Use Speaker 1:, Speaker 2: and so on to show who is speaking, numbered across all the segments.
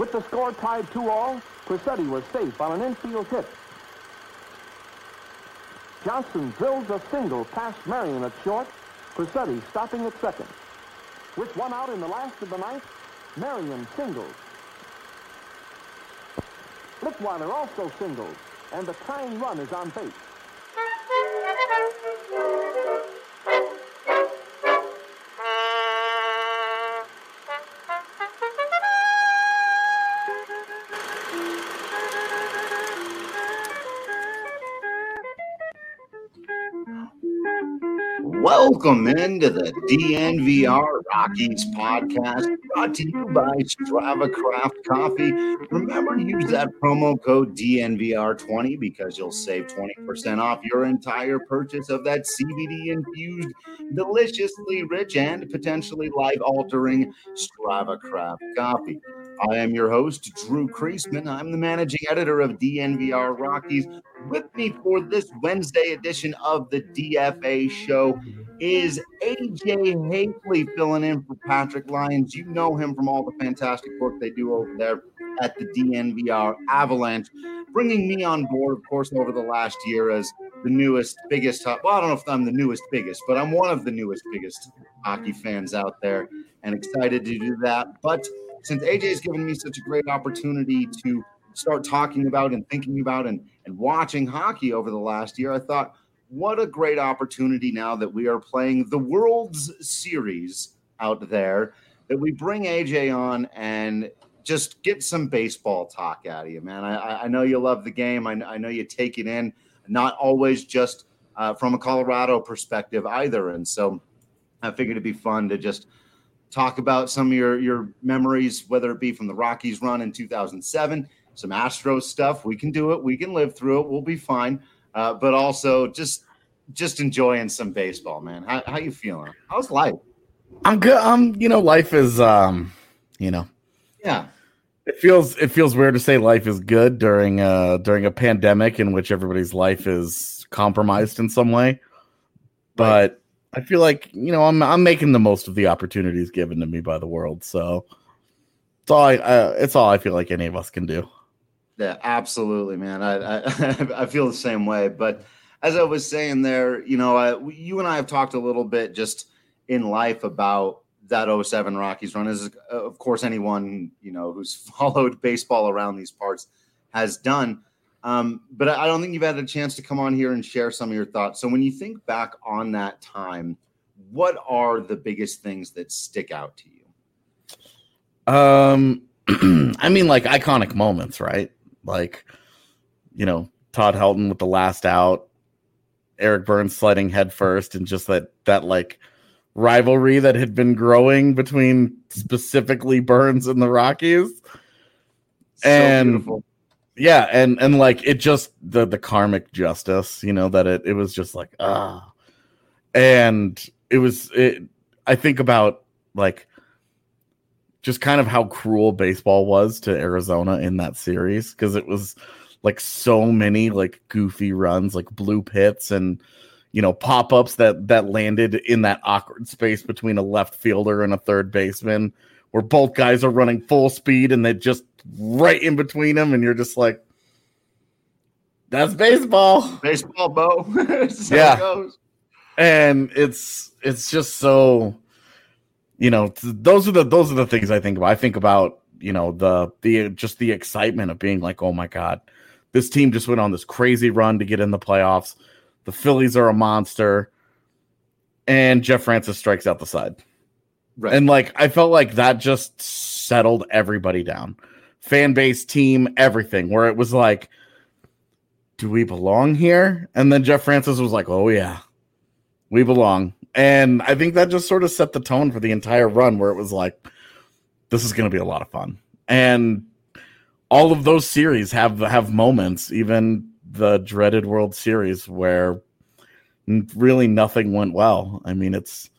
Speaker 1: With the score tied 2-all, Crissetti was safe on an infield hit. Johnson drills a single past Marion at short, Crissetti stopping at second. With one out in the last of the ninth, Marion singles. Flickweiler also singles, and the tying run is on base.
Speaker 2: Welcome into the DNVR Rockies podcast, brought to you by Strava Craft Coffee. Remember to use that promo code DNVR20 because you'll save 20% off your entire purchase of that CBD-infused, deliciously rich, and potentially life-altering Strava Craft Coffee. I am your host, Drew Kreisman. I'm the managing editor of DNVR Rockies. With me for this Wednesday edition of the DFA show is AJ Haefele filling in for Patrick Lyons. You know him from all the fantastic work they do over there at the DNVR Avalanche, bringing me on board, of course, over the last year as the newest, biggest, well, I don't know if I'm the newest, biggest, but I'm one of the newest, biggest hockey fans out there and excited to do that. But since AJ has given me such a great opportunity to start talking about and thinking about and watching hockey over the last year, I thought, what a great opportunity now that we are playing the World's Series out there, that we bring AJ on and just get some baseball talk out of you, man. I know you love the game. I know you take it in, not always just from a Colorado perspective either. And so I figured it'd be fun to just talk about some of your memories, whether it be from the Rockies run in 2007, some Astros stuff. We can do it. We can live through it. We'll be fine. But also just enjoying some baseball, man. How you feeling? How's life?
Speaker 3: I'm good. Life is,
Speaker 2: yeah.
Speaker 3: It feels weird to say life is good during a pandemic in which everybody's life is compromised in some way. But right. I feel like, I'm making the most of the opportunities given to me by the world. So it's all I feel like any of us can do.
Speaker 2: Yeah, absolutely, man. I feel the same way. But as I was saying there, you and I have talked a little bit just in life about that 07 Rockies run. As of course anyone who's followed baseball around these parts has done. But I don't think you've had a chance to come on here and share some of your thoughts. So when you think back on that time, what are the biggest things that stick out to you?
Speaker 3: I mean, like iconic moments, right? Like, Todd Helton with the last out, Eric Burns sliding head first, and just that like rivalry that had been growing between specifically Burns and the Rockies. So beautiful. Yeah, and like it just the karmic justice, that it was just like and I think about like just kind of how cruel baseball was to Arizona in that series, because it was like so many like goofy runs, like blue pits and pop-ups that landed in that awkward space between a left fielder and a third baseman, where both guys are running full speed and they just right in between them, and you're just like, that's baseball.
Speaker 2: Baseball, Bo.
Speaker 3: Yeah. It goes. And it's just so, those are the things I think about. I think about, the excitement of being like, oh my God, this team just went on this crazy run to get in the playoffs. The Phillies are a monster. And Jeff Francis strikes out the side. Right. And like, I felt like that just settled everybody down. Fan base, team, everything, where it was like, do we belong here? And then Jeff Francis was like, oh yeah, we belong. And I think that just sort of set the tone for the entire run, where it was like, this is going to be a lot of fun. And all of those series have moments, even the dreaded World Series, where really nothing went well. I mean, it's,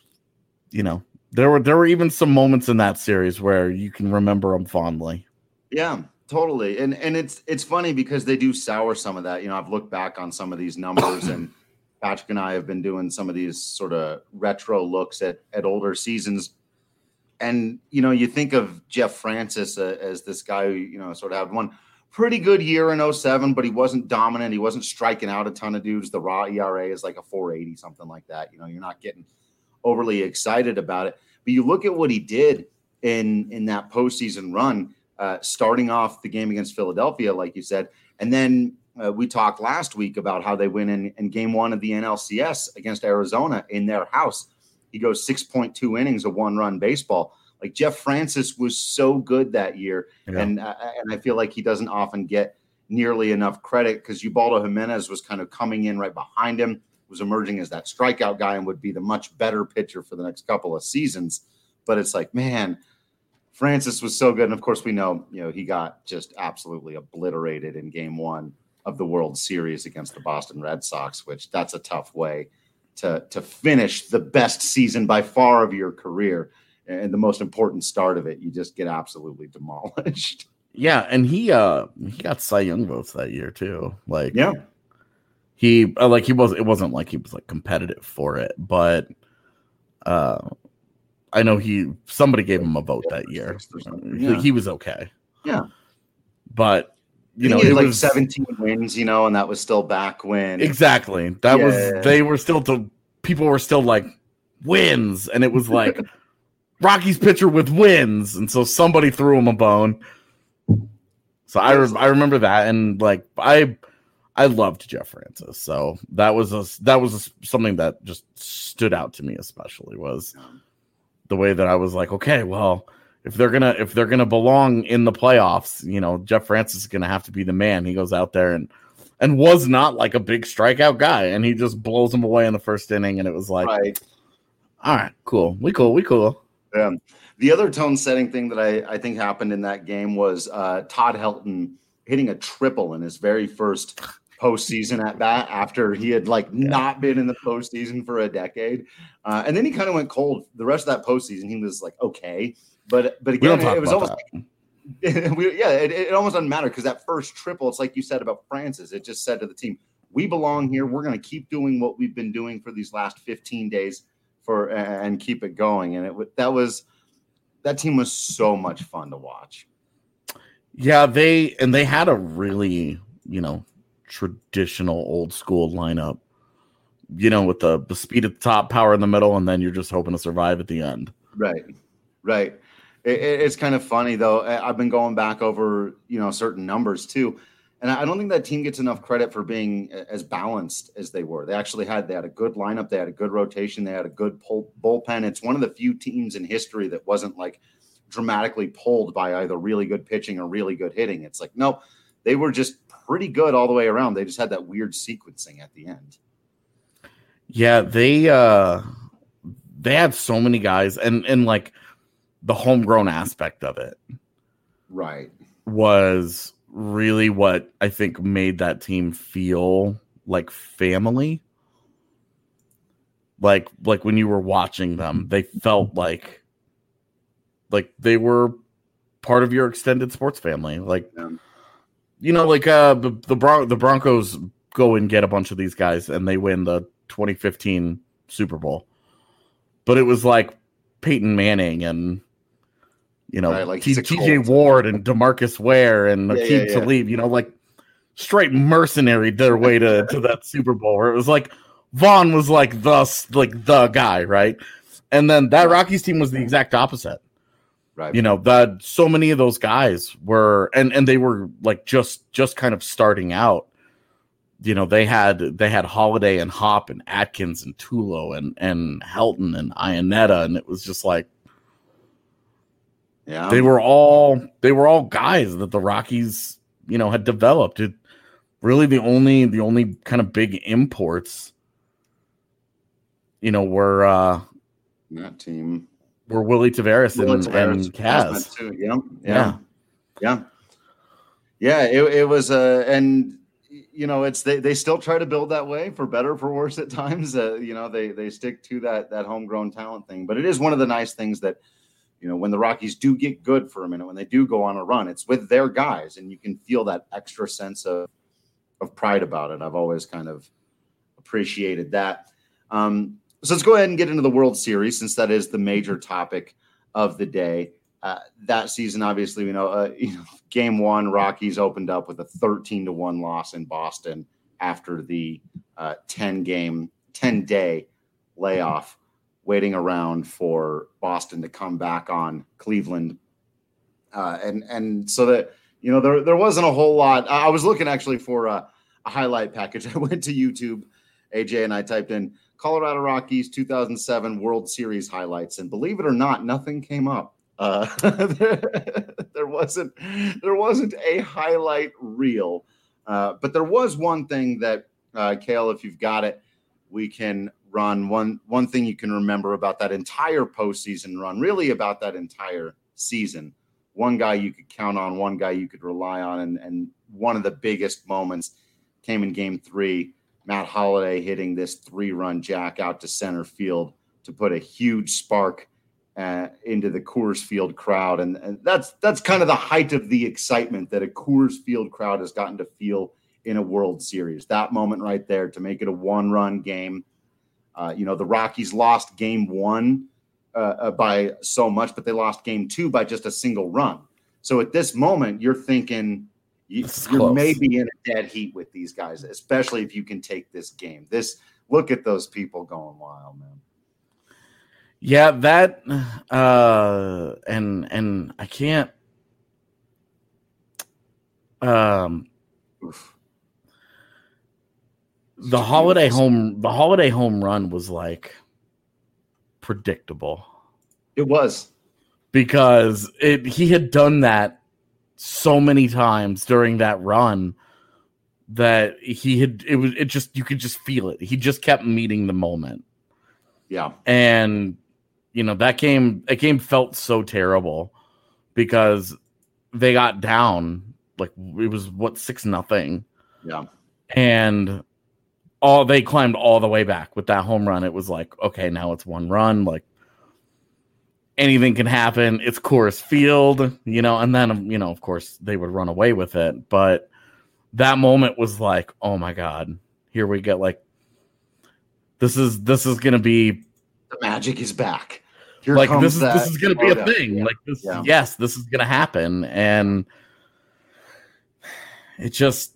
Speaker 3: there were even some moments in that series where you can remember them fondly.
Speaker 2: Yeah, totally. And it's funny because they do sour some of that. I've looked back on some of these numbers, and Patrick and I have been doing some of these sort of retro looks at older seasons. And, you know, you think of Jeff Francis as this guy who, you know, sort of had one pretty good year in 07, but he wasn't dominant. He wasn't striking out a ton of dudes. The raw ERA is like a 480, something like that. You know, you're not getting overly excited about it. But you look at what he did in that postseason run, starting off the game against Philadelphia, like you said. And then we talked last week about how they win in game one of the NLCS against Arizona in their house. He goes 6.2 innings of one-run baseball. Like Jeff Francis was so good that year, and I feel like he doesn't often get nearly enough credit because Ubaldo Jimenez was kind of coming in right behind him, was emerging as that strikeout guy and would be the much better pitcher for the next couple of seasons. But it's like, man, Francis was so good. And of course, we know, you know, he got just absolutely obliterated in game one of the World Series against the Boston Red Sox, which that's a tough way to finish the best season by far of your career and the most important start of it. You just get absolutely demolished.
Speaker 3: Yeah, and he got Cy Young votes that year too. Like,
Speaker 2: yeah,
Speaker 3: it wasn't like he was like competitive for it, but I know somebody gave him a vote that year.
Speaker 2: Yeah.
Speaker 3: He was okay.
Speaker 2: Yeah,
Speaker 3: but you know,
Speaker 2: it
Speaker 3: was
Speaker 2: like 17 wins, you know, and that was still back when
Speaker 3: exactly people were still like wins, and it was like Rockies pitcher with wins, and so somebody threw him a bone. So I remember that, and like I loved Jeff Francis, so that was something that just stood out to me, especially was the way that I was like, okay, well, if they're gonna belong in the playoffs, you know, Jeff Francis is gonna have to be the man. He goes out there and was not like a big strikeout guy, and he just blows him away in the first inning, and it was like,
Speaker 2: right.
Speaker 3: All right, cool, we cool.
Speaker 2: Yeah. The other tone-setting thing that I think happened in that game was Todd Helton hitting a triple in his very first postseason at bat after he had not been in the postseason for a decade, and then he kind of went cold. The rest of that postseason, he was like okay, but again, it was almost it almost doesn't matter because that first triple, it's like you said about Francis. It just said to the team, "We belong here. We're going to keep doing what we've been doing for these last 15 days and keep it going." And that team was so much fun to watch.
Speaker 3: Yeah, they had a really, you know, traditional old school lineup, you know, with the speed at the top, power in the middle, and then you're just hoping to survive at the end.
Speaker 2: Right. It's kind of funny though. I've been going back over, you know, certain numbers too, and I don't think that team gets enough credit for being as balanced as they were. They had a good lineup. They had a good rotation. They had a good bullpen. It's one of the few teams in history that wasn't like dramatically pulled by either really good pitching or really good hitting. It's like, no, they were just pretty good all the way around. They just had that weird sequencing at the end.
Speaker 3: Yeah, they had so many guys, and like the homegrown aspect of it,
Speaker 2: right,
Speaker 3: was really what I think made that team feel like family. Like when you were watching them, they felt like they were part of your extended sports family. Like, you know, like the Broncos go and get a bunch of these guys and they win the 2015 Super Bowl. But it was like Peyton Manning and, you know,
Speaker 2: like
Speaker 3: TJ Ward and DeMarcus Ware and Aqib Talib, you know, like straight mercenary their way to that Super Bowl where it was like Vaughn was like the guy, right? And then that Rockies team was the exact opposite.
Speaker 2: Right.
Speaker 3: You know, that so many of those guys were and they were like just kind of starting out. You know, they had Holiday and Hop and Atkins and Tulo and Helton and Iannetta, and it was just like,
Speaker 2: yeah,
Speaker 3: they were all guys that the Rockies, you know, had developed. It really the only kind of big imports, you know, were
Speaker 2: that team
Speaker 3: were Willie Taveras and Kaz.
Speaker 2: Too. Yeah. It was and you know, it's they still try to build that way for better or for worse at times. You know, they stick to that homegrown talent thing, but it is one of the nice things that, you know, when the Rockies do get good for a minute, when they do go on a run, it's with their guys, and you can feel that extra sense of pride about it. I've always kind of appreciated that. So let's go ahead and get into the World Series, since that is the major topic of the day. That season, obviously, game one, Rockies opened up with a 13-1 loss in Boston after the 10-day layoff, waiting around for Boston to come back on Cleveland. And so that, there wasn't a whole lot. I was looking actually for a highlight package. I went to YouTube, AJ, and I typed in Colorado Rockies 2007 World Series highlights. And believe it or not, nothing came up. There wasn't a highlight reel. But there was one thing that, Cale, if you've got it, we can run. One thing you can remember about that entire postseason run, really about that entire season. One guy you could count on, one guy you could rely on, and one of the biggest moments came in Game 3. Matt Holliday hitting this 3-run jack out to center field to put a huge spark into the Coors Field crowd, and that's kind of the height of the excitement that a Coors Field crowd has gotten to feel in a World Series. That moment right there to make it a 1-run game. The Rockies lost Game 1 by so much, but they lost Game 2 by just a single run. So at this moment, you're thinking you're maybe in a dead heat with these guys, especially if you can take this game. Look at those people going wild, man.
Speaker 3: Yeah, that and I can't the holiday home run was like predictable.
Speaker 2: It was,
Speaker 3: because he had done that so many times during that run that you could just feel it. He just kept meeting the moment.
Speaker 2: Yeah.
Speaker 3: And that game felt so terrible because they got down, like it was 6-0.
Speaker 2: Yeah.
Speaker 3: And they climbed all the way back with that home run. It was like, okay, now it's 1 run, like anything can happen. It's Coors Field, and then, of course they would run away with it. But that moment was like, oh my God, here we get this is going to be,
Speaker 2: the magic is back.
Speaker 3: Here this is going to be a thing. Yeah. Like this, yeah. Yes, this is going to happen. And it just,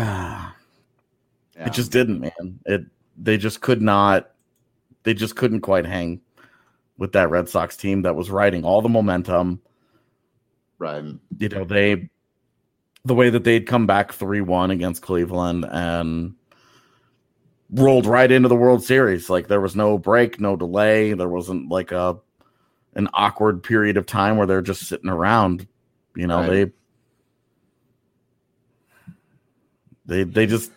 Speaker 3: it just didn't, man. They just couldn't quite hang with that Red Sox team that was riding all the momentum.
Speaker 2: Right.
Speaker 3: The way that they'd come back 3-1 against Cleveland and rolled right into the World Series. Like there was no break, no delay. There wasn't like an awkward period of time where they're just sitting around. Right. They just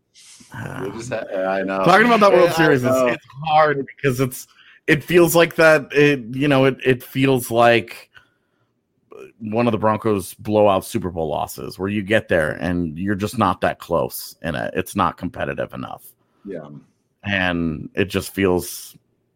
Speaker 2: I know.
Speaker 3: Talking about that World Series it's hard because it feels like that. It feels like one of the Broncos' blowout Super Bowl losses where you get there and you're just not that close and it's not competitive enough.
Speaker 2: Yeah.
Speaker 3: And it just feels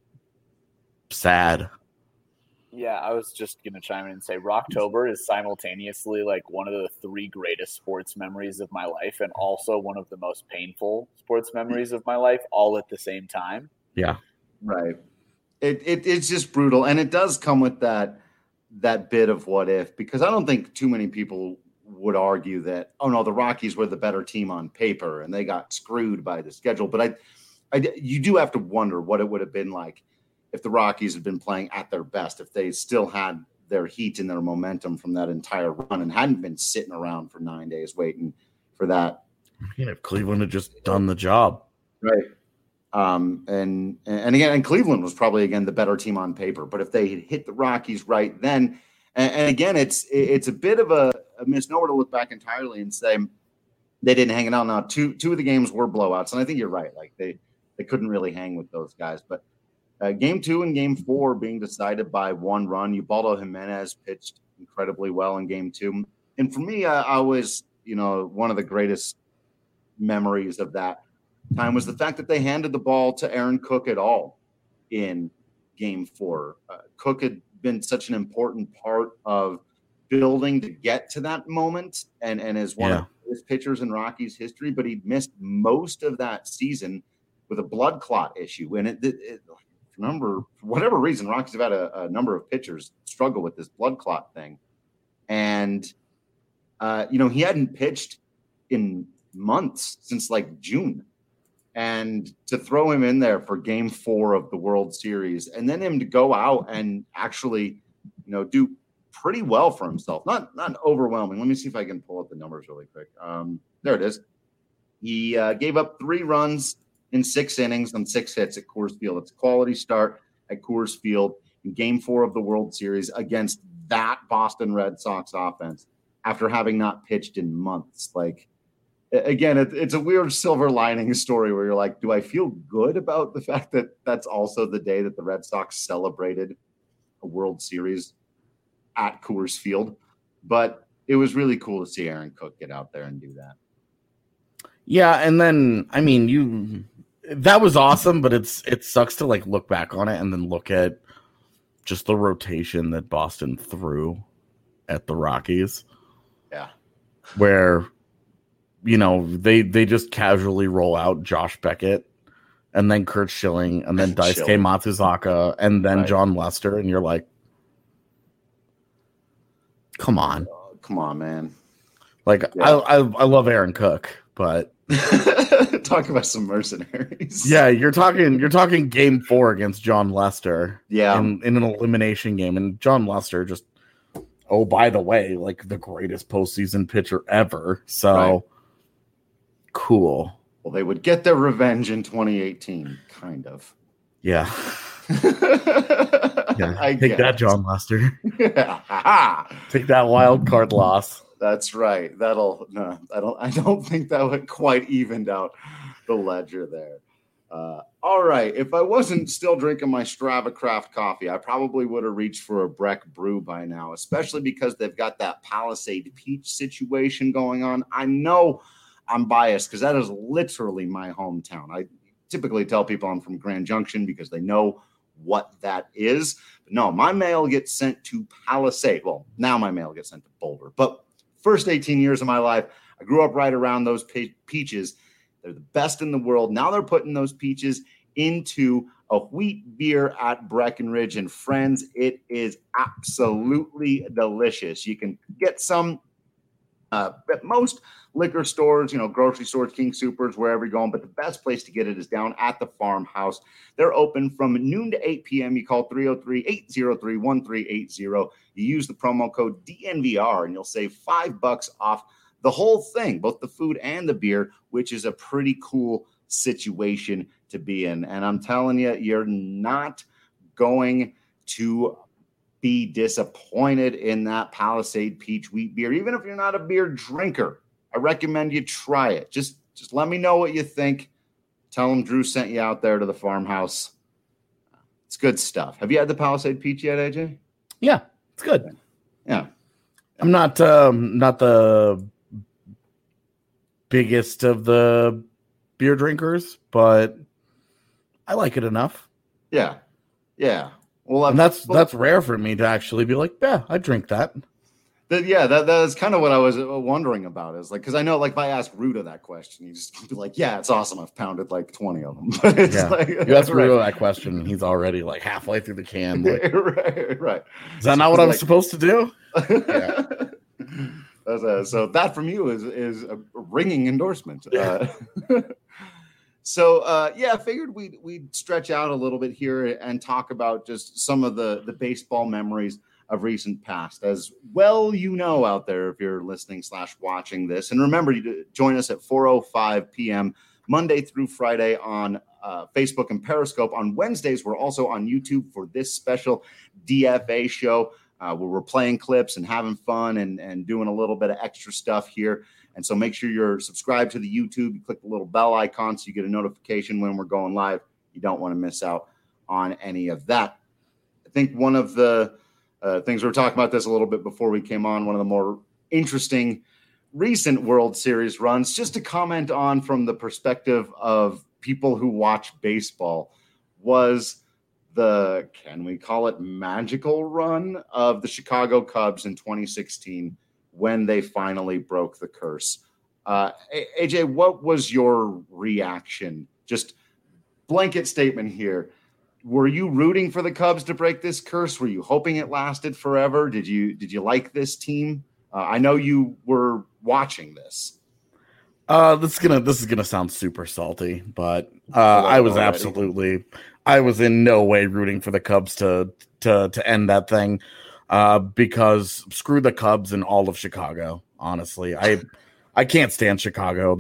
Speaker 3: sad.
Speaker 4: Yeah, I was just going to chime in and say Rocktober is simultaneously like one of the 3 greatest sports memories of my life and also one of the most painful sports memories of my life all at the same time.
Speaker 3: Yeah.
Speaker 2: Right. It's just brutal. And it does come with that bit of what if, because I don't think too many people would argue that, oh no, the Rockies were the better team on paper and they got screwed by the schedule. But you do have to wonder what it would have been like if the Rockies had been playing at their best, if they still had their heat and their momentum from that entire run and hadn't been sitting around for 9 days waiting for that.
Speaker 3: Yeah, if Cleveland had just done the job.
Speaker 2: Right. And again, Cleveland was probably, again, the better team on paper. But if they had hit the Rockies right then, and again, it's a bit of a misnomer to look back entirely and say they didn't hang it out. Now, two of the games were blowouts, and I think you're right. Like they couldn't really hang with those guys. But Game 2 and Game 4 being decided by 1 run. Ubaldo Jimenez pitched incredibly well in Game 2. And for me, I was, one of the greatest memories of that time was the fact that they handed the ball to Aaron Cook at all in Game 4. Cook had been such an important part of building to get to that moment and is one of his pitchers in Rockies history, but he missed most of that season with a blood clot issue. And it for whatever reason, Rockies have had a number of pitchers struggle with this blood clot thing. And, he hadn't pitched in months since like June. And to throw him in there for game 4 of the World Series and then him to go out and actually, do pretty well for himself. Not overwhelming. Let me see if I can pull up the numbers really quick. There it is. He gave up 3 runs in 6 innings on 6 hits at Coors Field. It's a quality start at Coors Field in game 4 of the World Series against that Boston Red Sox offense after having not pitched in months. Like, again, it's a weird silver lining story where you're like, do I feel good about the fact that that's also the day that the Red Sox celebrated a World Series at Coors Field? But it was really cool to see Aaron Cook get out there and do that.
Speaker 3: Yeah, and then, I mean, that was awesome, but it sucks to like look back on it and then look at just the rotation that Boston threw at the Rockies.
Speaker 2: Yeah.
Speaker 3: Where, they just casually roll out Josh Beckett and then Curt Schilling and then Daisuke Matsuzaka and then John Lester. And you're like, come on.
Speaker 2: Come on, man.
Speaker 3: Like, yeah. I love Aaron Cook, but
Speaker 2: talk about some mercenaries.
Speaker 3: Yeah, you're talking game 4 against John Lester.
Speaker 2: Yeah.
Speaker 3: In an elimination game. And John Lester just, oh, by the way, like the greatest postseason pitcher ever. So cool.
Speaker 2: Well, they would get their revenge in 2018, kind of.
Speaker 3: Yeah. Take that, John Lester. Take that wild card loss.
Speaker 2: That's right. I don't think that would quite evened out the ledger there. All right. If I wasn't still drinking my Strava Craft coffee, I probably would have reached for a Breck brew by now, especially because they've got that Palisade Peach situation going on. I know I'm biased because that is literally my hometown. I typically tell people I'm from Grand Junction because they know what that is. But no, my mail gets sent to Palisade. Well, now my mail gets sent to Boulder. But first 18 years of my life, I grew up right around those peaches. They're the best in the world. Now they're putting those peaches into a wheat beer at Breckenridge. And friends, it is absolutely delicious. You can get some at most liquor stores, grocery stores, King Soopers, wherever you're going. But the best place to get it is down at the farmhouse. They're open from noon to 8 p.m. You call 303-803-1380. You use the promo code DNVR and you'll save $5 off the whole thing, both the food and the beer, which is a pretty cool situation to be in. And I'm telling you, you're not going to be disappointed in that Palisade Peach Wheat beer. Even if you're not a beer drinker, I recommend you try it. Just let me know what you think. Tell them Drew sent you out there to the farmhouse. It's good stuff. Have you had the Palisade Peach yet, AJ?
Speaker 3: Yeah, it's good.
Speaker 2: Yeah.
Speaker 3: I'm not the biggest of the beer drinkers, but I like it enough.
Speaker 2: Yeah. Yeah. Well,
Speaker 3: and that's rare for me to actually be like, yeah, I drink that.
Speaker 2: That is kind of what I was wondering about. Is like, because I know, like, if I ask Ruda that question, he's just be like, yeah, it's awesome. I've pounded like 20 of them. But it's like,
Speaker 3: you ask Ruda that question, he's already like halfway through the can. Like,
Speaker 2: right.
Speaker 3: Is that not what I was supposed to do?
Speaker 2: Yeah. So that from you is a ringing endorsement. So, I figured we'd stretch out a little bit here and talk about just some of the baseball memories of recent past. As well, out there, if you're listening / watching this. And remember to join us at 4:05 p.m. Monday through Friday on Facebook and Periscope. On Wednesdays, we're also on YouTube for this special DFA show where we're playing clips and having fun and doing a little bit of extra stuff here. And so make sure you're subscribed to the YouTube. You click the little bell icon so you get a notification when we're going live. You don't want to miss out on any of that. I think one of the things we were talking about this a little bit before we came on, one of the more interesting recent World Series runs, just to comment on from the perspective of people who watch baseball, was the, can we call it, magical run of the Chicago Cubs in 2016 when they finally broke the curse. AJ, what was your reaction? Just blanket statement here. were you rooting for the Cubs to break this curse? Were you hoping it lasted forever? Did you like this team? I know you were watching this.
Speaker 3: This is gonna sound super salty, but I was in no way rooting for the Cubs to end that thing, because screw the Cubs and all of Chicago. Honestly, I can't stand Chicago.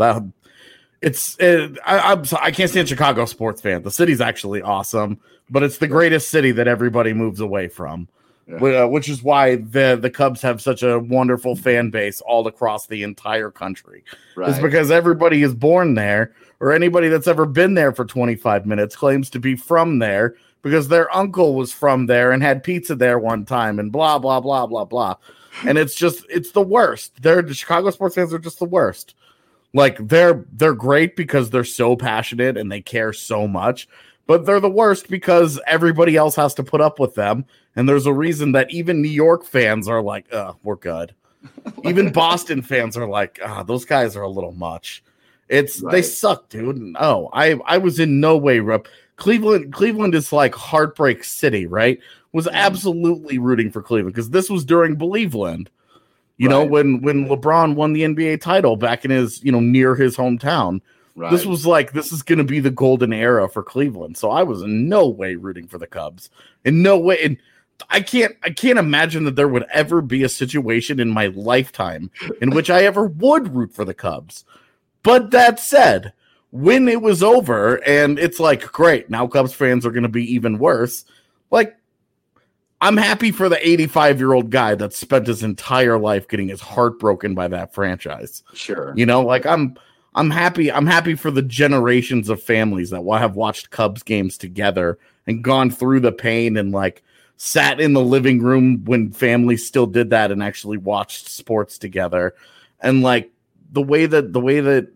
Speaker 3: I can't stand Chicago sports fans. The city's actually awesome, but it's the greatest city that everybody moves away from. Yeah. Which is why the Cubs have such a wonderful fan base all across the entire country. Right. It's because everybody is born there, or anybody that's ever been there for 25 minutes claims to be from there because their uncle was from there and had pizza there one time and blah, blah, blah, blah, blah. And it's the worst. The Chicago sports fans are just the worst. Like they're great because they're so passionate and they care so much, but they're the worst because everybody else has to put up with them. And there's a reason that even New York fans are like, we're good. Even Boston fans are like, those guys are a little much. They suck, dude. No, I was in no way. Cleveland is like heartbreak city, right? Was absolutely rooting for Cleveland because this was during Believeland. You know, when LeBron won the NBA title back in his, near his hometown. Right. This was like, this is going to be the golden era for Cleveland. So I was in no way rooting for the Cubs. In no way. And I can't imagine that there would ever be a situation in my lifetime in which I ever would root for the Cubs. But that said, when it was over and it's like, great, now Cubs fans are going to be even worse. Like, I'm happy for the 85-year-old guy that spent his entire life getting his heart broken by that franchise.
Speaker 2: Sure.
Speaker 3: Like I'm happy. I'm happy for the generations of families that have watched Cubs games together and gone through the pain and like sat in the living room when families still did that and actually watched sports together. And like the way that,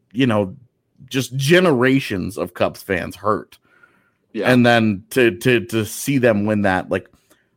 Speaker 3: just generations of Cubs fans hurt. Yeah. And then to see them win that, like,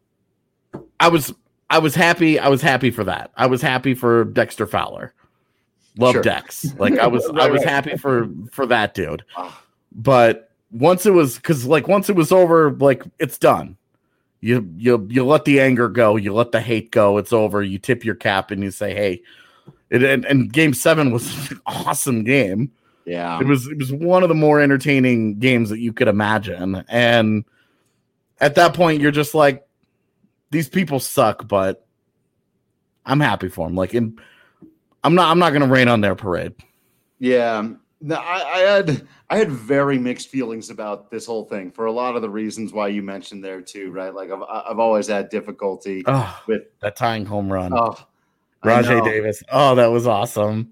Speaker 3: I was happy. I was happy for that. I was happy for Dexter Fowler. Love Dex. Like I was happy for that dude. But once it was over, like it's done. You let the anger go. You let the hate go. It's over. You tip your cap and you say, hey, and Game 7 was an awesome game.
Speaker 2: Yeah.
Speaker 3: It was one of the more entertaining games that you could imagine. And at that point, you're just like, these people suck, but I'm happy for them. Like, I'm not going to rain on their parade.
Speaker 2: Yeah. No, I had very mixed feelings about this whole thing for a lot of the reasons why you mentioned there too, right? Like I've always had difficulty with
Speaker 3: that tying home run. Rajay Davis. Oh, that was awesome.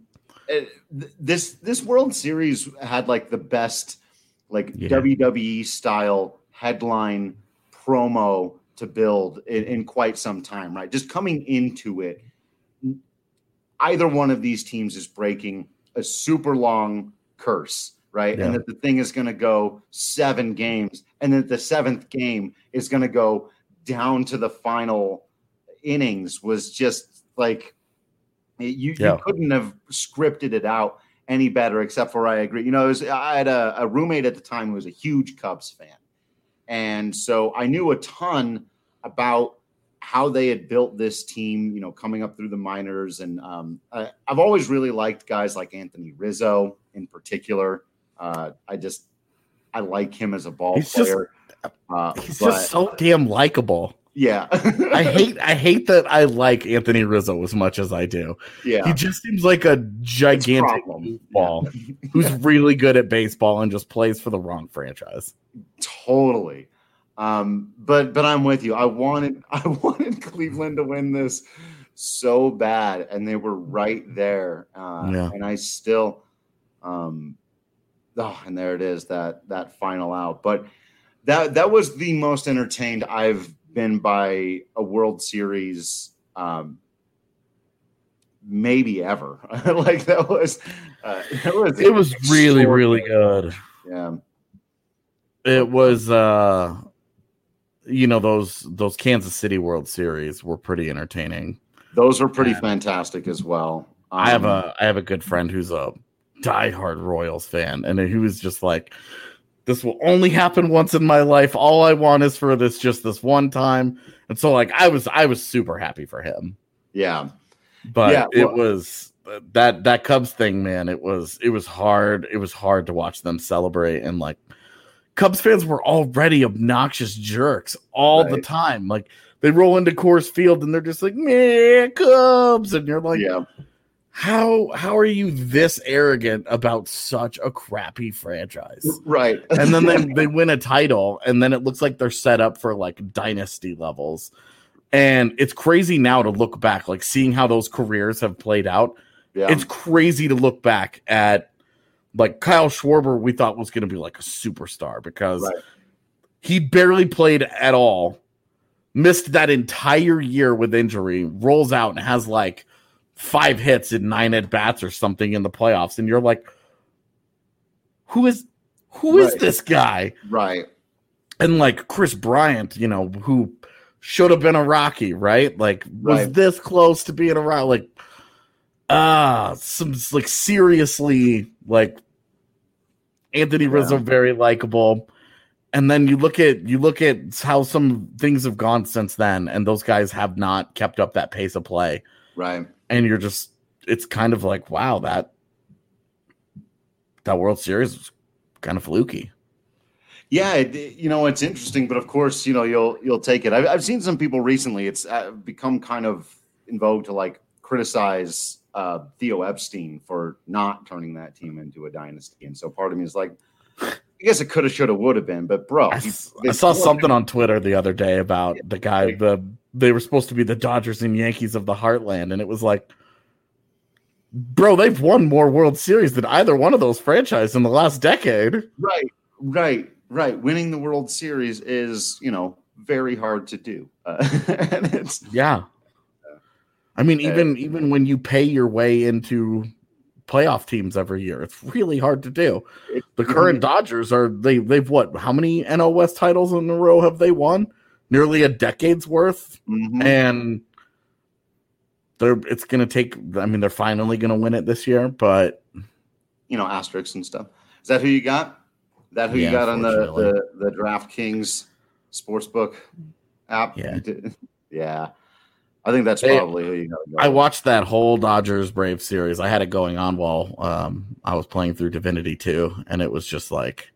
Speaker 2: This World Series had like the best WWE style headline promo to build in quite some time, right? Just coming into it, either one of these teams is breaking a super long curse, right? Yeah. And that the thing is going to go 7 games, and that the 7th game is going to go down to the final innings was just like you couldn't have scripted it out any better, except for I agree. I had a roommate at the time who was a huge Cubs fan. And so I knew a ton about how they had built this team, coming up through the minors. And I've always really liked guys like Anthony Rizzo in particular. I like him as a ball player.
Speaker 3: He's just so damn likable.
Speaker 2: Yeah.
Speaker 3: I hate that I like Anthony Rizzo as much as I do.
Speaker 2: Yeah.
Speaker 3: He just seems like a gigantic ball who's really good at baseball and just plays for the wrong franchise.
Speaker 2: Totally. But I'm with you. I wanted Cleveland to win this so bad, and they were right there. And I still and there it is, that final out. But that was the most entertained I've been by a World Series maybe ever. Like it was
Speaker 3: really, really good.
Speaker 2: Yeah.
Speaker 3: It was those Kansas City World Series were pretty entertaining.
Speaker 2: Those are pretty fantastic as well.
Speaker 3: I have a good friend who's a diehard Royals fan, and he was just like, This will only happen once in my life. All I want is for this just this one time. And so like I was super happy for him.
Speaker 2: Yeah.
Speaker 3: But yeah, it was that Cubs thing, man. It was hard. It was hard to watch them celebrate, and like Cubs fans were already obnoxious jerks all the time. Like they roll into Coors Field and they're just like, "Man, Cubs," and you're like,
Speaker 2: yeah.
Speaker 3: How are you this arrogant about such a crappy franchise?
Speaker 2: Right.
Speaker 3: And then they win a title, and then it looks like they're set up for like dynasty levels. And it's crazy now to look back, like seeing how those careers have played out. Yeah. It's crazy to look back at like Kyle Schwarber, we thought was going to be like a superstar because he barely played at all, missed that entire year with injury, rolls out and has like 5 hits in 9 at-bats or something in the playoffs. And you're like, who is this guy?
Speaker 2: Right.
Speaker 3: And like Chris Bryant, you know, who should have been a Rocky, right? Like was this close to being a Rocky? Like, some like seriously, like Anthony Rizzo, very likable. And then you look at how some things have gone since then, and those guys have not kept up that pace of play.
Speaker 2: Right.
Speaker 3: And you're just, it's kind of like, wow, that World Series was kind of fluky.
Speaker 2: Yeah, it's interesting, but of course, you'll take it. I've seen some people recently. It's become kind of in vogue to like criticize Theo Epstein for not turning that team into a dynasty, and so part of me is like, I guess it could have, should have, would have been. But bro,
Speaker 3: I saw something on Twitter the other day about the guy. They were supposed to be the Dodgers and Yankees of the Heartland, and it was like, bro, they've won more World Series than either one of those franchises in the last decade.
Speaker 2: Right. Winning the World Series is, very hard to do. And it's
Speaker 3: I mean, even when you pay your way into playoff teams every year, it's really hard to do. The current Dodgers they've what? How many NL West titles in a row have they won? Nearly a decade's worth, and it's going to take. I mean, they're finally going to win it this year, but
Speaker 2: asterisks and stuff. Is that who you got? Is that who you got on the DraftKings Sportsbook app? Yeah. I think that's probably who you got to go.
Speaker 3: I watched that whole Dodgers Braves series. I had it going on while I was playing through Divinity 2, and it was just like,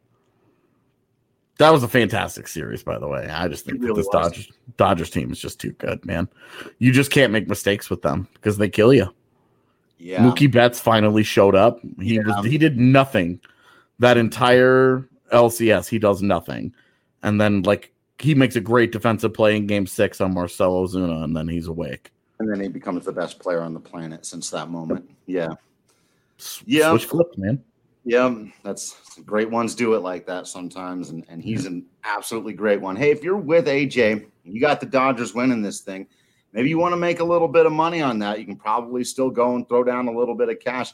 Speaker 3: that was a fantastic series, by the way. I just think that this Dodgers team is just too good, man. You just can't make mistakes with them because they kill you. Yeah. Mookie Betts finally showed up. He did nothing. That entire LCS, he does nothing. And then, like, he makes a great defensive play in Game 6 on Marcell Ozuna, and then he's awake.
Speaker 2: And then he becomes the best player on the planet since that moment. Yeah.
Speaker 3: Switch flipped, man.
Speaker 2: Yeah, that's great ones do it like that sometimes, and he's an absolutely great one. Hey, if you're with AJ, you got the Dodgers winning this thing, maybe you want to make a little bit of money on that. You can probably still go and throw down a little bit of cash.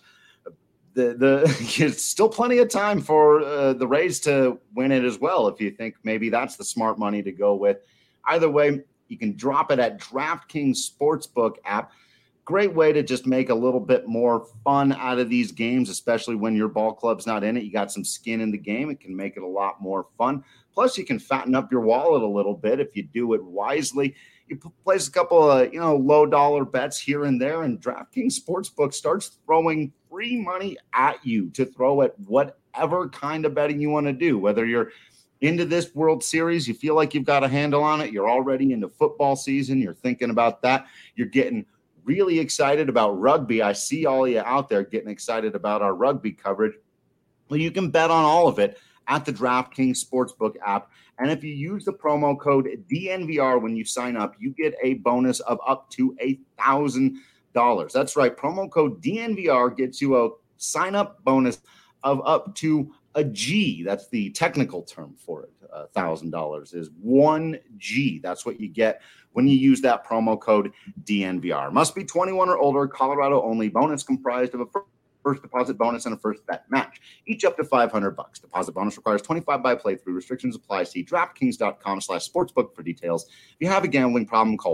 Speaker 2: There's still plenty of time for the Rays to win it as well if you think maybe that's the smart money to go with. Either way, you can drop it at DraftKings Sportsbook app. Great way to just make a little bit more fun out of these games, especially when your ball club's not in it. You got some skin in the game. It can make it a lot more fun. Plus, you can fatten up your wallet a little bit if you do it wisely. You place a couple of low dollar bets here and there, and DraftKings Sportsbook starts throwing free money at you to throw at whatever kind of betting you want to do. Whether you're into this World Series, you feel like you've got a handle on it, you're already into football season, you're thinking about that, you're getting really excited about rugby. I see all of you out there getting excited about our rugby coverage. Well, you can bet on all of it at the DraftKings Sportsbook app. And if you use the promo code DNVR when you sign up, you get a bonus of up to $1,000. That's right. Promo code DNVR gets you a sign-up bonus of up to a G. That's the technical term for it. $1,000 is 1G. That's what you get when you use that promo code DNVR. Must be 21 or older, Colorado only. Bonus comprised of a first deposit bonus and a first bet match, each up to $500. Deposit bonus requires 25 by playthrough. Restrictions apply. See DraftKings.com/sportsbook for details. If you have a gambling problem, call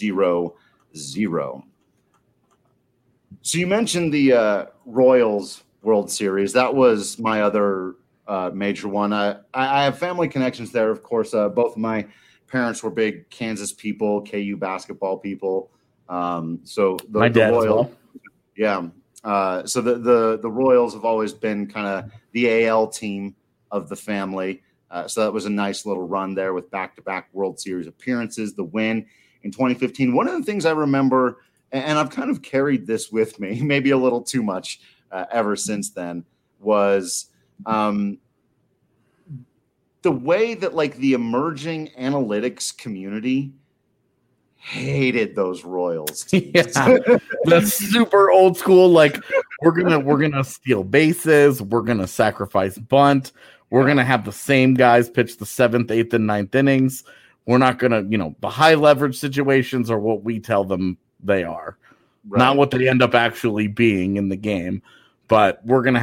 Speaker 2: 1-800-522-4700. So you mentioned the Royals World Series. That was my other major one. I have family connections there, of course. Both of my parents were big Kansas people, KU basketball people. So
Speaker 3: my dad
Speaker 2: Royals,
Speaker 3: as well.
Speaker 2: Yeah. So the Royals have always been kind of the AL team of the family. So that was a nice little run there with back-to-back World Series appearances, the win in 2015. One of the things I remember, and I've kind of carried this with me, maybe a little too much ever since then, was the way that like the emerging analytics community hated those Royals teams.
Speaker 3: Yeah, that's super old school. Like we're gonna steal bases, we're gonna sacrifice bunt, we're gonna have the same guys pitch the 7th, 8th, and 9th innings. We're not gonna, the high leverage situations are what we tell them they are, right. Not what they end up actually being in the game. But we're gonna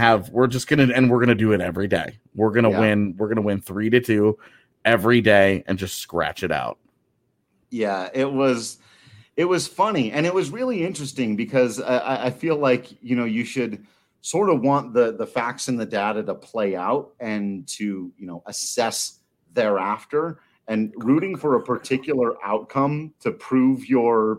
Speaker 3: do it every day. We're gonna win. We're gonna win 3-2 every day and just scratch it out.
Speaker 2: Yeah, it was funny, and it was really interesting because I feel like you should sort of want the facts and the data to play out and to assess thereafter, and rooting for a particular outcome to prove your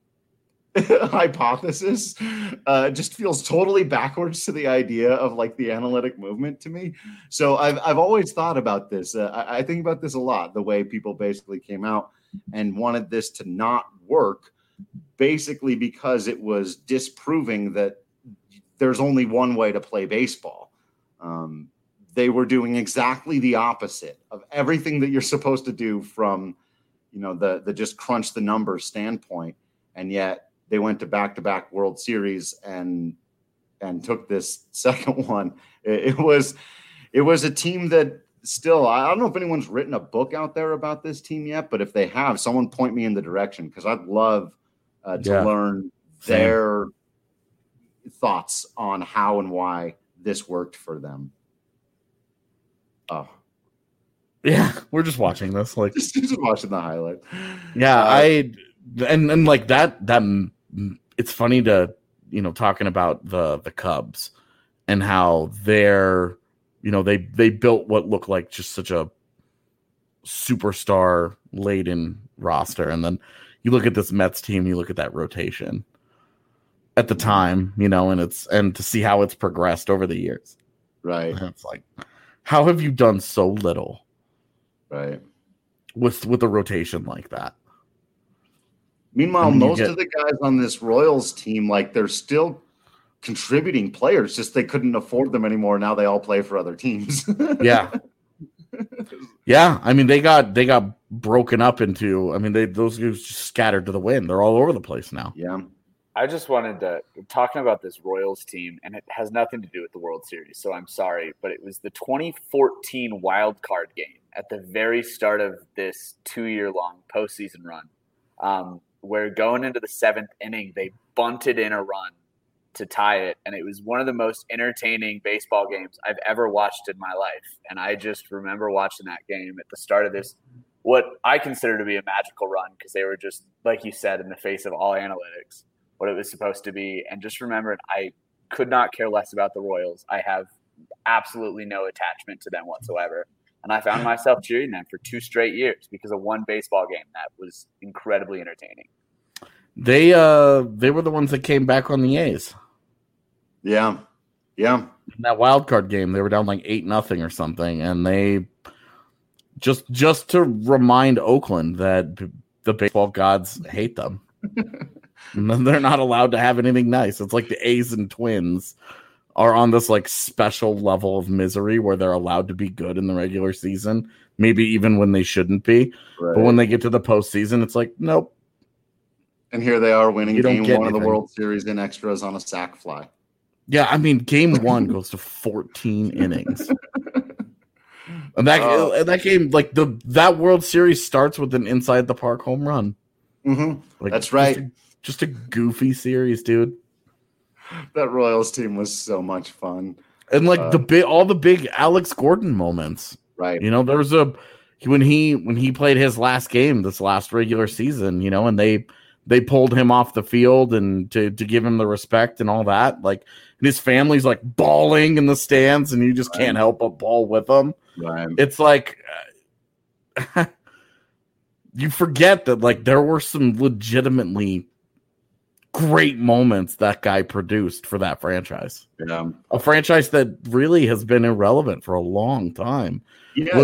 Speaker 2: hypothesis just feels totally backwards to the idea of like the analytic movement to me. So I've always thought about this. I think about this a lot, the way people basically came out and wanted this to not work, basically because it was disproving that there's only one way to play baseball. They were doing exactly the opposite of everything that you're supposed to do from, the just crunch the numbers standpoint. And yet they went to back-to-back World Series and took this second one. It was a team that still, I don't know if anyone's written a book out there about this team yet, but if they have, someone point me in the direction, because I'd love to learn their thoughts on how and why this worked for them. Oh,
Speaker 3: yeah, we're just watching this, like
Speaker 2: just watching the highlight.
Speaker 3: Yeah, and like that it's funny to talking about the Cubs and how they're they built what looked like just such a superstar laden roster, and then you look at this Mets team, you look at that rotation at the time, and to see how it's progressed over the years,
Speaker 2: right?
Speaker 3: And it's like, how have you done so little,
Speaker 2: right,
Speaker 3: with a rotation like that?
Speaker 2: Meanwhile, most of the guys on this Royals team, like, they're still contributing players, just they couldn't afford them anymore. Now they all play for other teams.
Speaker 3: Yeah. Yeah. I mean, they got broken up into, those guys just scattered to the wind. They're all over the place now.
Speaker 2: Yeah.
Speaker 4: I just wanted to, talking about this Royals team, and it has nothing to do with the World Series, so I'm sorry, but it was the 2014 wild card game at the very start of this 2-year-long postseason run. Where going into the 7th inning, they bunted in a run to tie it. And it was one of the most entertaining baseball games I've ever watched in my life. And I just remember watching that game at the start of this, what I consider to be a magical run, because they were just, like you said, in the face of all analytics, what it was supposed to be. And just remember, I could not care less about the Royals. I have absolutely no attachment to them whatsoever. And I found myself cheering them for 2 straight years because of one baseball game that was incredibly entertaining.
Speaker 3: They were the ones that came back on the A's.
Speaker 2: Yeah. Yeah.
Speaker 3: In that wild card game, they were down like 8-0 or something, and they just to remind Oakland that the baseball gods hate them. And then they're not allowed to have anything nice. It's like the A's and Twins are on this like special level of misery where they're allowed to be good in the regular season, maybe even when they shouldn't be. Right. But when they get to the postseason, it's like, nope.
Speaker 2: And here they are winning game 1 of the World Series in extras on a sac fly.
Speaker 3: Yeah, game 1 goes to 14 innings. And that game, like that World Series starts with an inside the park home run.
Speaker 2: Mm-hmm. Like, that's right.
Speaker 3: Just a goofy series, dude.
Speaker 2: That Royals team was so much fun.
Speaker 3: And like all the big Alex Gordon moments.
Speaker 2: Right.
Speaker 3: There was when he played his last game this last regular season, and they pulled him off the field and to give him the respect and all that. Like, and his family's like bawling in the stands, and you just can't help but bawl with them.
Speaker 2: Right.
Speaker 3: It's like you forget that like there were some legitimately great moments that guy produced for that franchise.
Speaker 2: Yeah.
Speaker 3: A franchise that really has been irrelevant for a long time.
Speaker 2: Yeah,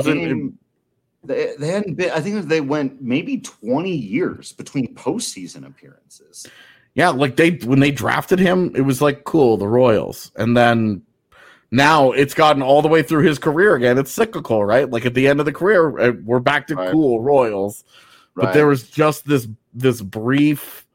Speaker 2: they hadn't been. I think they went maybe 20 years between postseason appearances.
Speaker 3: Yeah, like when they drafted him, it was like cool, the Royals, and then now it's gotten all the way through his career again. It's cyclical, right? Like at the end of the career, we're back to cool Royals, but there was just this brief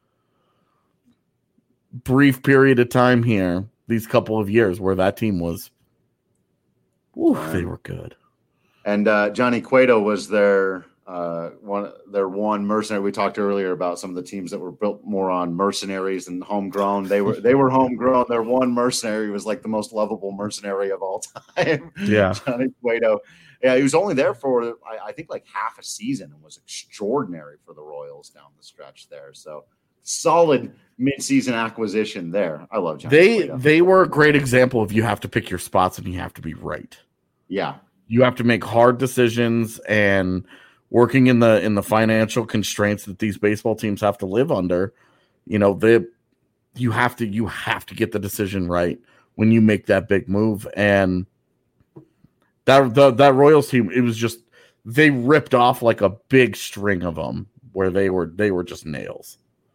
Speaker 3: period of time here, these couple of years where that team was, they were good.
Speaker 2: And Johnny Cueto was their one mercenary. We talked earlier about some of the teams that were built more on mercenaries and homegrown. They were homegrown. Their one mercenary was like the most lovable mercenary of all time.
Speaker 3: Yeah,
Speaker 2: Johnny Cueto. Yeah, he was only there for I think like half a season and was extraordinary for the Royals down the stretch there. So solid mid-season acquisition there. I love Johnny Cueto.
Speaker 3: They were a great example of you have to pick your spots and you have to be right.
Speaker 2: Yeah. You
Speaker 3: have to make hard decisions, and working in the financial constraints that these baseball teams have to live under, you have to get the decision right when you make that big move. And that Royals team, it was just, they ripped off like a big string of them where they were just nails.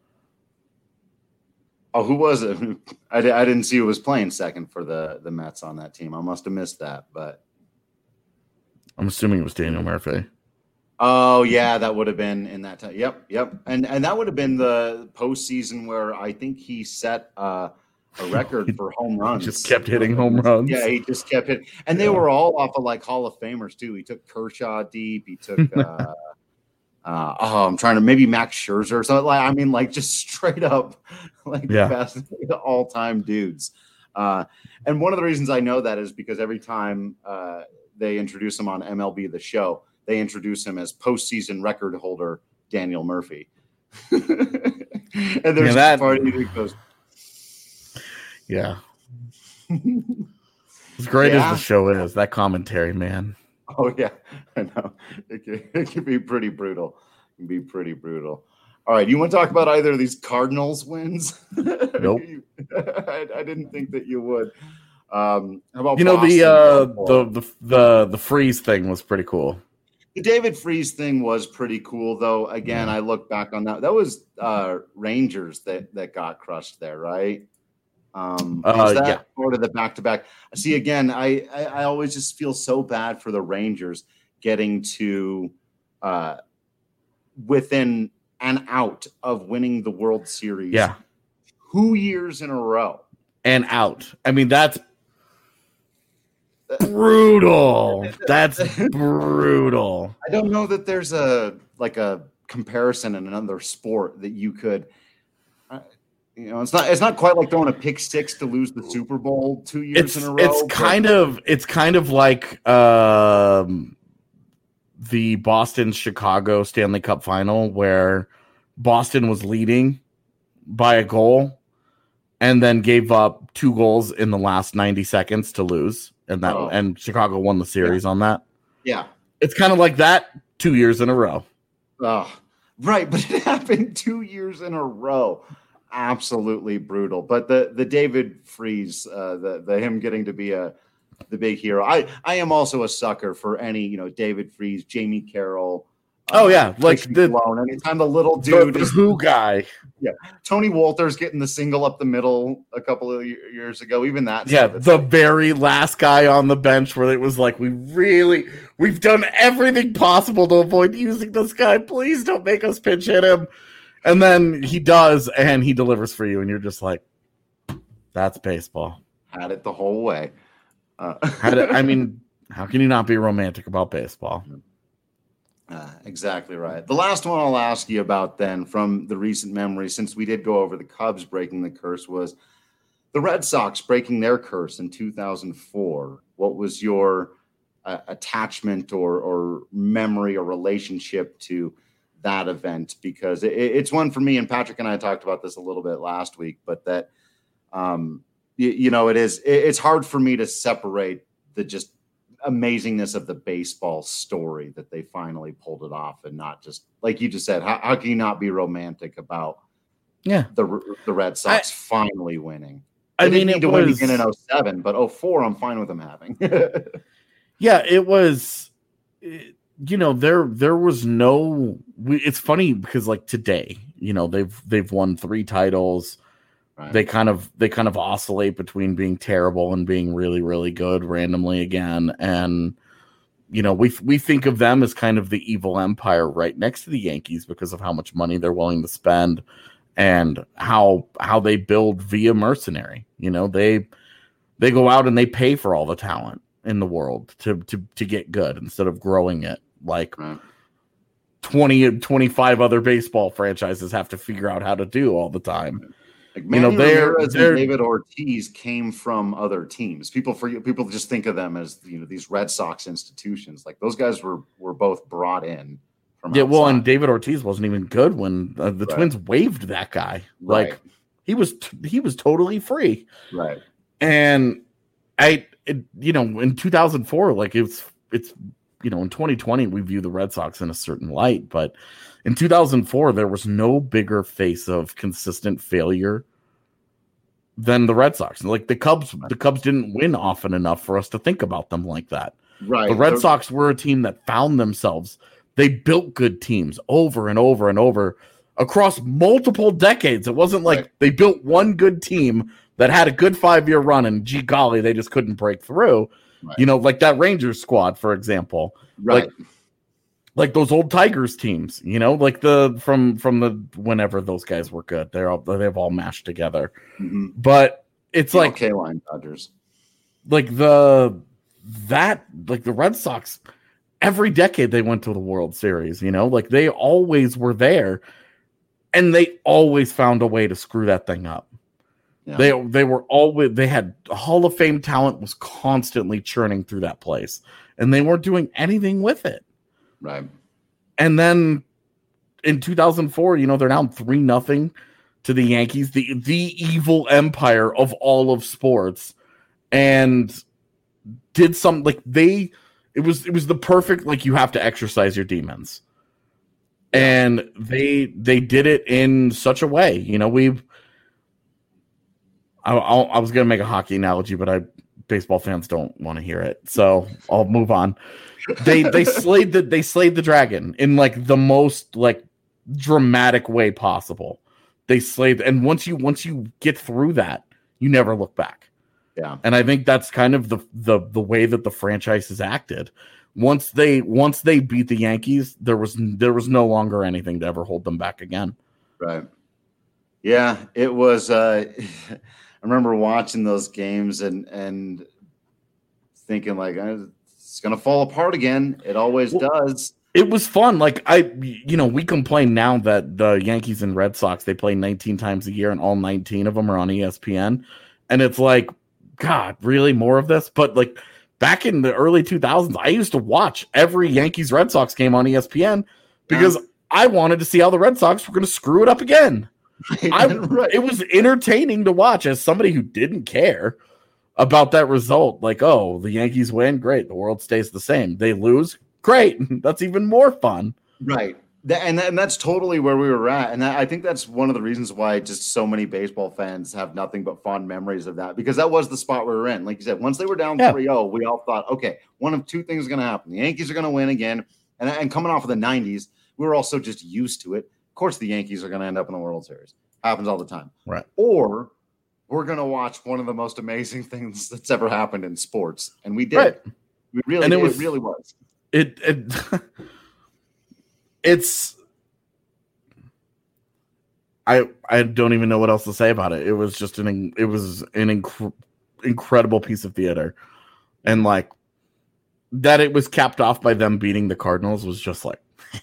Speaker 2: Oh, who was it? I didn't see who was playing second for the Mets on that team. I must have missed that, but
Speaker 3: I'm assuming it was Daniel Murphy.
Speaker 2: Oh yeah, that would have been in that time. Yep. And that would have been the postseason where I think he set a record for home runs.
Speaker 3: Just kept hitting home runs.
Speaker 2: Yeah, he just kept hitting, and they were all off of like Hall of Famers too. He took Kershaw deep. He took I'm trying to maybe Max Scherzer or something. Like, I mean, like just straight up like the best all time dudes. And one of the reasons I know that is because every time they introduce him on MLB The Show, they introduce him as postseason record holder Daniel Murphy. And there's a party that goes,
Speaker 3: as great as the show is, that commentary, man.
Speaker 2: Oh yeah, I know. It can be pretty brutal. It can be pretty brutal. All right, you want to talk about either of these Cardinals wins?
Speaker 3: Nope.
Speaker 2: I didn't think that you would. How about
Speaker 3: the Freeze thing was pretty cool.
Speaker 2: The David Freeze thing was pretty cool, though. Again, I look back on that. That was Rangers that got crushed there, right? Is that part of the back-to-back? See, again, I always just feel so bad for the Rangers getting to within an out of winning the World Series. 2 years in a row.
Speaker 3: And out. I mean, that's brutal. That's brutal.
Speaker 2: I don't know that there's a comparison in another sport that you could. It's not quite like throwing a pick six to lose the Super Bowl 2 years in a row.
Speaker 3: It's kind of like the Boston-Chicago Stanley Cup final where Boston was leading by a goal and then gave up 2 goals in the last 90 seconds to lose, and Chicago won the series on that.
Speaker 2: Yeah,
Speaker 3: it's kind of like that 2 years in a row.
Speaker 2: Oh, right, but it happened 2 years in a row. Absolutely brutal. But the David Freeze, the him getting to be the big hero. I am also a sucker for any David Freeze, Jamie Carroll.
Speaker 3: Like
Speaker 2: anytime the little dude
Speaker 3: the who guy.
Speaker 2: Yeah, Tony Walters getting the single up the middle a couple of years ago. Even that.
Speaker 3: Yeah, the very last guy on the bench where it was like, we've done everything possible to avoid using this guy. Please don't make us pinch hit him. And then he does, and he delivers for you, and you're just like, that's baseball.
Speaker 2: Had it the whole way.
Speaker 3: I mean, how can you not be romantic about baseball?
Speaker 2: Exactly right. The last one I'll ask you about then from the recent memory, since we did go over the Cubs breaking the curse, was the Red Sox breaking their curse in 2004. What was your attachment or memory or relationship to that event? Because it's one for me, and Patrick and I talked about this a little bit last week, but that it's hard for me to separate the just amazingness of the baseball story that they finally pulled it off, and not just like you just said. How can you not be romantic about the Red Sox finally winning? They didn't need to win again in 07, but 04 I'm fine with them having.
Speaker 3: Yeah, it was. There was no. It's funny because like today, they've won 3 titles. Right. They kind of oscillate between being terrible and being really, really good randomly again. And, we think of them as kind of the evil empire right next to the Yankees because of how much money they're willing to spend and how they build via mercenary. They go out and they pay for all the talent in the world to get good instead of growing it like 20, 25 other baseball franchises have to figure out how to do all the time.
Speaker 2: Like Manny Ramirez and David Ortiz came from other teams. People just think of them as these Red Sox institutions. Like those guys were both brought in from outside.
Speaker 3: Well, and David Ortiz wasn't even good when the Twins waived that guy.
Speaker 2: Right.
Speaker 3: Like he was totally free.
Speaker 2: Right.
Speaker 3: And in 2004, like it's in 2020 we view the Red Sox in a certain light, but in 2004, there was no bigger face of consistent failure than the Red Sox. Like the Cubs didn't win often enough for us to think about them like that.
Speaker 2: Right.
Speaker 3: The Red Sox were a team that found themselves. They built good teams over and over and over across multiple decades. It wasn't like they built one good team that had a good 5-year run and gee golly, they just couldn't break through. Right. Like that Rangers squad, for example.
Speaker 2: Right.
Speaker 3: Like those old Tigers teams, like from the whenever those guys were good, they've all mashed together.
Speaker 2: Mm-hmm.
Speaker 3: But it's like
Speaker 2: K-line Dodgers,
Speaker 3: like the Red Sox. Every decade they went to the World Series, like they always were there, and they always found a way to screw that thing up. Yeah. They had Hall of Fame talent was constantly churning through that place, and they weren't doing anything with it.
Speaker 2: Right.
Speaker 3: And then in 2004, they're down 3-0 to the Yankees, the evil empire of all of sports, and did something like it was the perfect, like you have to exercise your demons. And they did it in such a way, I was going to make a hockey analogy, but baseball fans don't want to hear it. So I'll move on. They slayed the dragon in like the most like dramatic way possible. They slayed, and once you get through that, you never look back.
Speaker 2: Yeah.
Speaker 3: And I think that's kind of the way that the franchise has acted. Once they beat the Yankees, there was no longer anything to ever hold them back again.
Speaker 2: Right. Yeah, it was I remember watching those games and thinking like it's going to fall apart again. It always does.
Speaker 3: It was fun. Like we complain now that the Yankees and Red Sox, they play 19 times a year and all 19 of them are on ESPN. And it's like, God, really more of this? But like back in the early 2000s, I used to watch every Yankees Red Sox game on ESPN because I wanted to see how the Red Sox were going to screw it up again.
Speaker 2: Right.
Speaker 3: It was entertaining to watch as somebody who didn't care about that result. Like, oh, the Yankees win, great. The world stays the same. They lose, great. That's even more fun.
Speaker 2: Right. And that's totally where we were at. And I think that's one of the reasons why just so many baseball fans have nothing but fond memories of that, because that was the spot we were in. Like you said, once they were down 3-0, we all thought, okay, one of two things is going to happen. The Yankees are going to win again. And coming off of the 90s, we were also just used to it. Of course, the Yankees are going to end up in the World Series. Happens all the time.
Speaker 3: Right.
Speaker 2: Or we're going to watch one of the most amazing things that's ever happened in sports. And we did.
Speaker 3: Right.
Speaker 2: We really, it really was.
Speaker 3: It's I don't even know what else to say about it. It was just an incredible piece of theater, and like that it was capped off by them beating the Cardinals was just like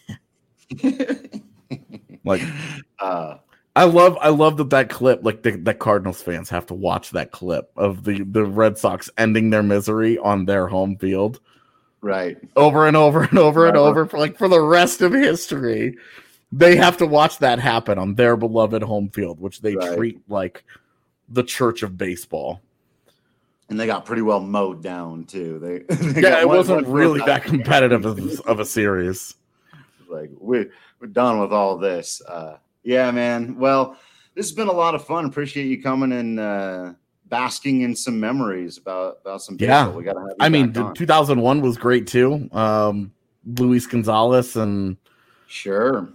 Speaker 3: like I love that clip, like the Cardinals fans have to watch that clip of the Red Sox ending their misery on their home field.
Speaker 2: Right.
Speaker 3: Over and over and over and over for the rest of history. They have to watch that happen on their beloved home field, which they treat like the church of baseball.
Speaker 2: And they got pretty well mowed down too.
Speaker 3: It wasn't really that competitive of a series.
Speaker 2: Like we're done with all this. Yeah, man. Well, this has been a lot of fun. Appreciate you coming and basking in some memories about some baseball.
Speaker 3: Yeah,
Speaker 2: we gotta have you
Speaker 3: I mean,
Speaker 2: back on.
Speaker 3: 2001 was great too. Luis Gonzalez and
Speaker 2: sure,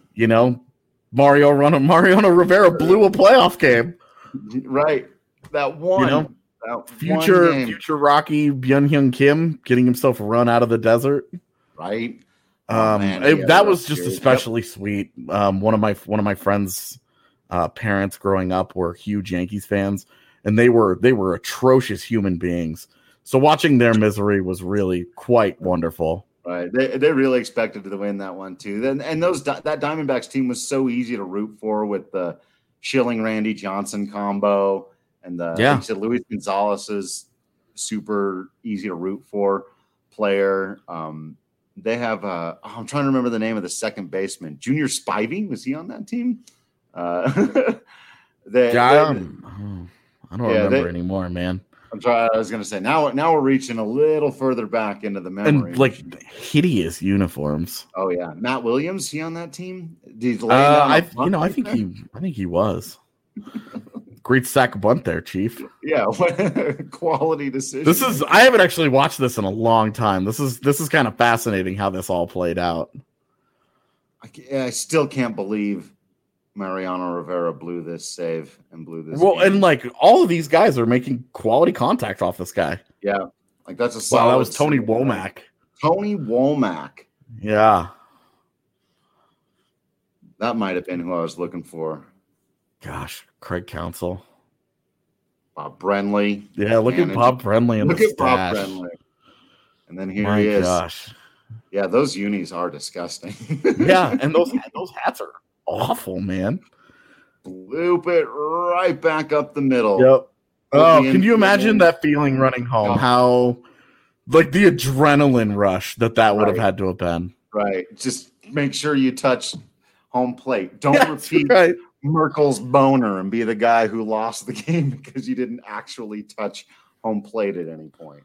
Speaker 3: Mariano Rivera blew a playoff game.
Speaker 2: Right, that one.
Speaker 3: Future Rocky Byung-Hyun Kim getting himself run out of the desert.
Speaker 2: Right.
Speaker 3: That was just especially sweet. One of my friends' parents growing up were huge Yankees fans, and they were atrocious human beings. So watching their misery was really quite wonderful.
Speaker 2: Right. They really expected to win that one too. And that Diamondbacks team was so easy to root for with the Schilling Randy Johnson combo. And like you said, Luis Gonzalez is super easy to root for player. They have I'm trying to remember the name of the second baseman. Junior Spivey, was he on that team? I
Speaker 3: don't remember anymore, man.
Speaker 2: I was going to say now we're reaching a little further back into the memory.
Speaker 3: And like hideous uniforms.
Speaker 2: Oh yeah, Matt Williams, he on that team?
Speaker 3: I think he was. Great sack of bunt there, Chief.
Speaker 2: Yeah, quality decision.
Speaker 3: I haven't actually watched this in a long time. This is kind of fascinating how this all played out.
Speaker 2: I still can't believe Mariano Rivera blew this save and blew this.
Speaker 3: Well,
Speaker 2: game.
Speaker 3: And like all of these guys are making quality contact off this guy.
Speaker 2: Yeah, like that's a solid.
Speaker 3: Wow, that was Tony Womack.
Speaker 2: Tony Womack.
Speaker 3: Yeah,
Speaker 2: that might have been who I was looking for.
Speaker 3: Gosh, Craig Counsell.
Speaker 2: Bob Brenly.
Speaker 3: Yeah, look at Bob Brenly and
Speaker 2: Bob Brenly. And then he is.
Speaker 3: Gosh.
Speaker 2: Yeah, those unis are disgusting.
Speaker 3: Yeah, and those hats are awful, man.
Speaker 2: Loop it right back up the middle.
Speaker 3: Yep. Oh, can you imagine that feeling running home? How, like, the adrenaline rush that would have had to have been.
Speaker 2: Right. Just make sure you touch home plate. Don't repeat Merkel's boner and be the guy who lost the game because you didn't actually touch home plate at any point.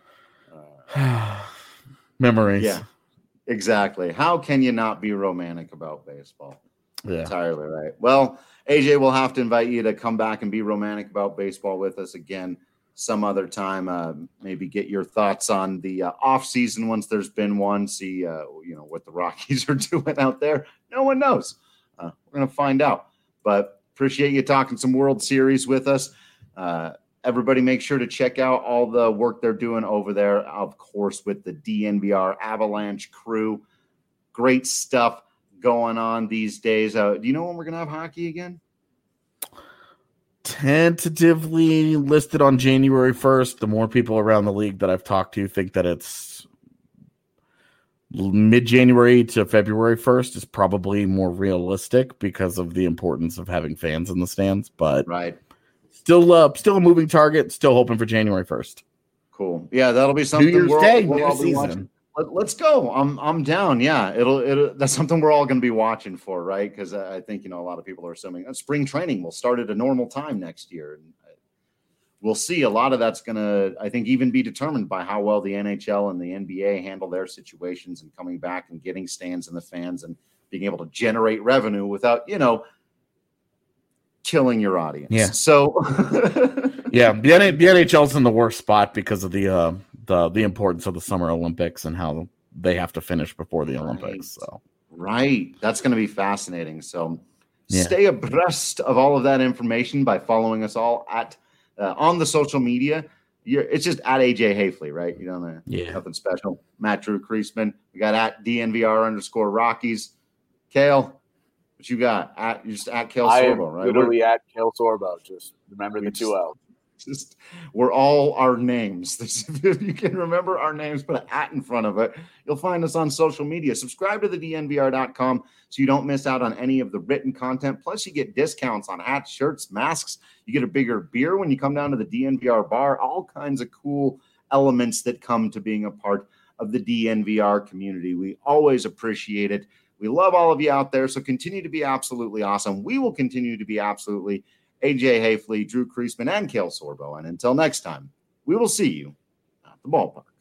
Speaker 3: Memories.
Speaker 2: Yeah, exactly. How can you not be romantic about baseball?
Speaker 3: Yeah.
Speaker 2: Entirely right. Well, AJ, we'll have to invite you to come back and be romantic about baseball with us again some other time. Maybe get your thoughts on the off season once there's been one. See, what the Rockies are doing out there. No one knows. We're going to find out. But appreciate you talking some World Series with us. Everybody make sure to check out all the work they're doing over there, of course, with the DNVR Avalanche crew. Great stuff going on these days. Do you know when we're going to have hockey again?
Speaker 3: Tentatively listed on January 1st. The more people around the league that I've talked to think that it's mid-January to February 1st is probably more realistic because of the importance of having fans in the stands. But still a moving target. Still hoping for January 1st.
Speaker 2: Cool. Yeah, that'll be something.
Speaker 3: New Year's Day, new season.
Speaker 2: Let's go. I'm down. Yeah, it'll. That's something we're all going to be watching for, right? Because I think a lot of people are assuming spring training will start at a normal time next year, and we'll see. A lot of that's going to, I think, even be determined by how well the NHL and the NBA handle their situations and coming back and getting stands in the fans and being able to generate revenue without killing your audience.
Speaker 3: Yeah.
Speaker 2: So,
Speaker 3: yeah, the NHL's in the worst spot because of the importance of the Summer Olympics and how they have to finish before the Olympics. So,
Speaker 2: that's going to be fascinating. So, stay abreast of all of that information by following us all at on the social media. It's just at AJ Hafley, right? You don't know, nothing special. Matt Drew Creasman. We got at DNVR_Rockies. Kale, what you got? You're just at Kale Sorbo, right?
Speaker 4: Literally at Kale Sorbo. Just remember the 2 L's.
Speaker 2: We're all our names. If you can remember our names, put an at in front of it. You'll find us on social media. Subscribe to the DNVR.com so you don't miss out on any of the written content. Plus, you get discounts on hats, shirts, masks. You get a bigger beer when you come down to the DNVR bar. All kinds of cool elements that come to being a part of the DNVR community. We always appreciate it. We love all of you out there, so continue to be absolutely awesome. We will continue to be absolutely AJ Hayfley, Drew Creasman, and Cale Sorbo. And until next time, we will see you at the ballpark.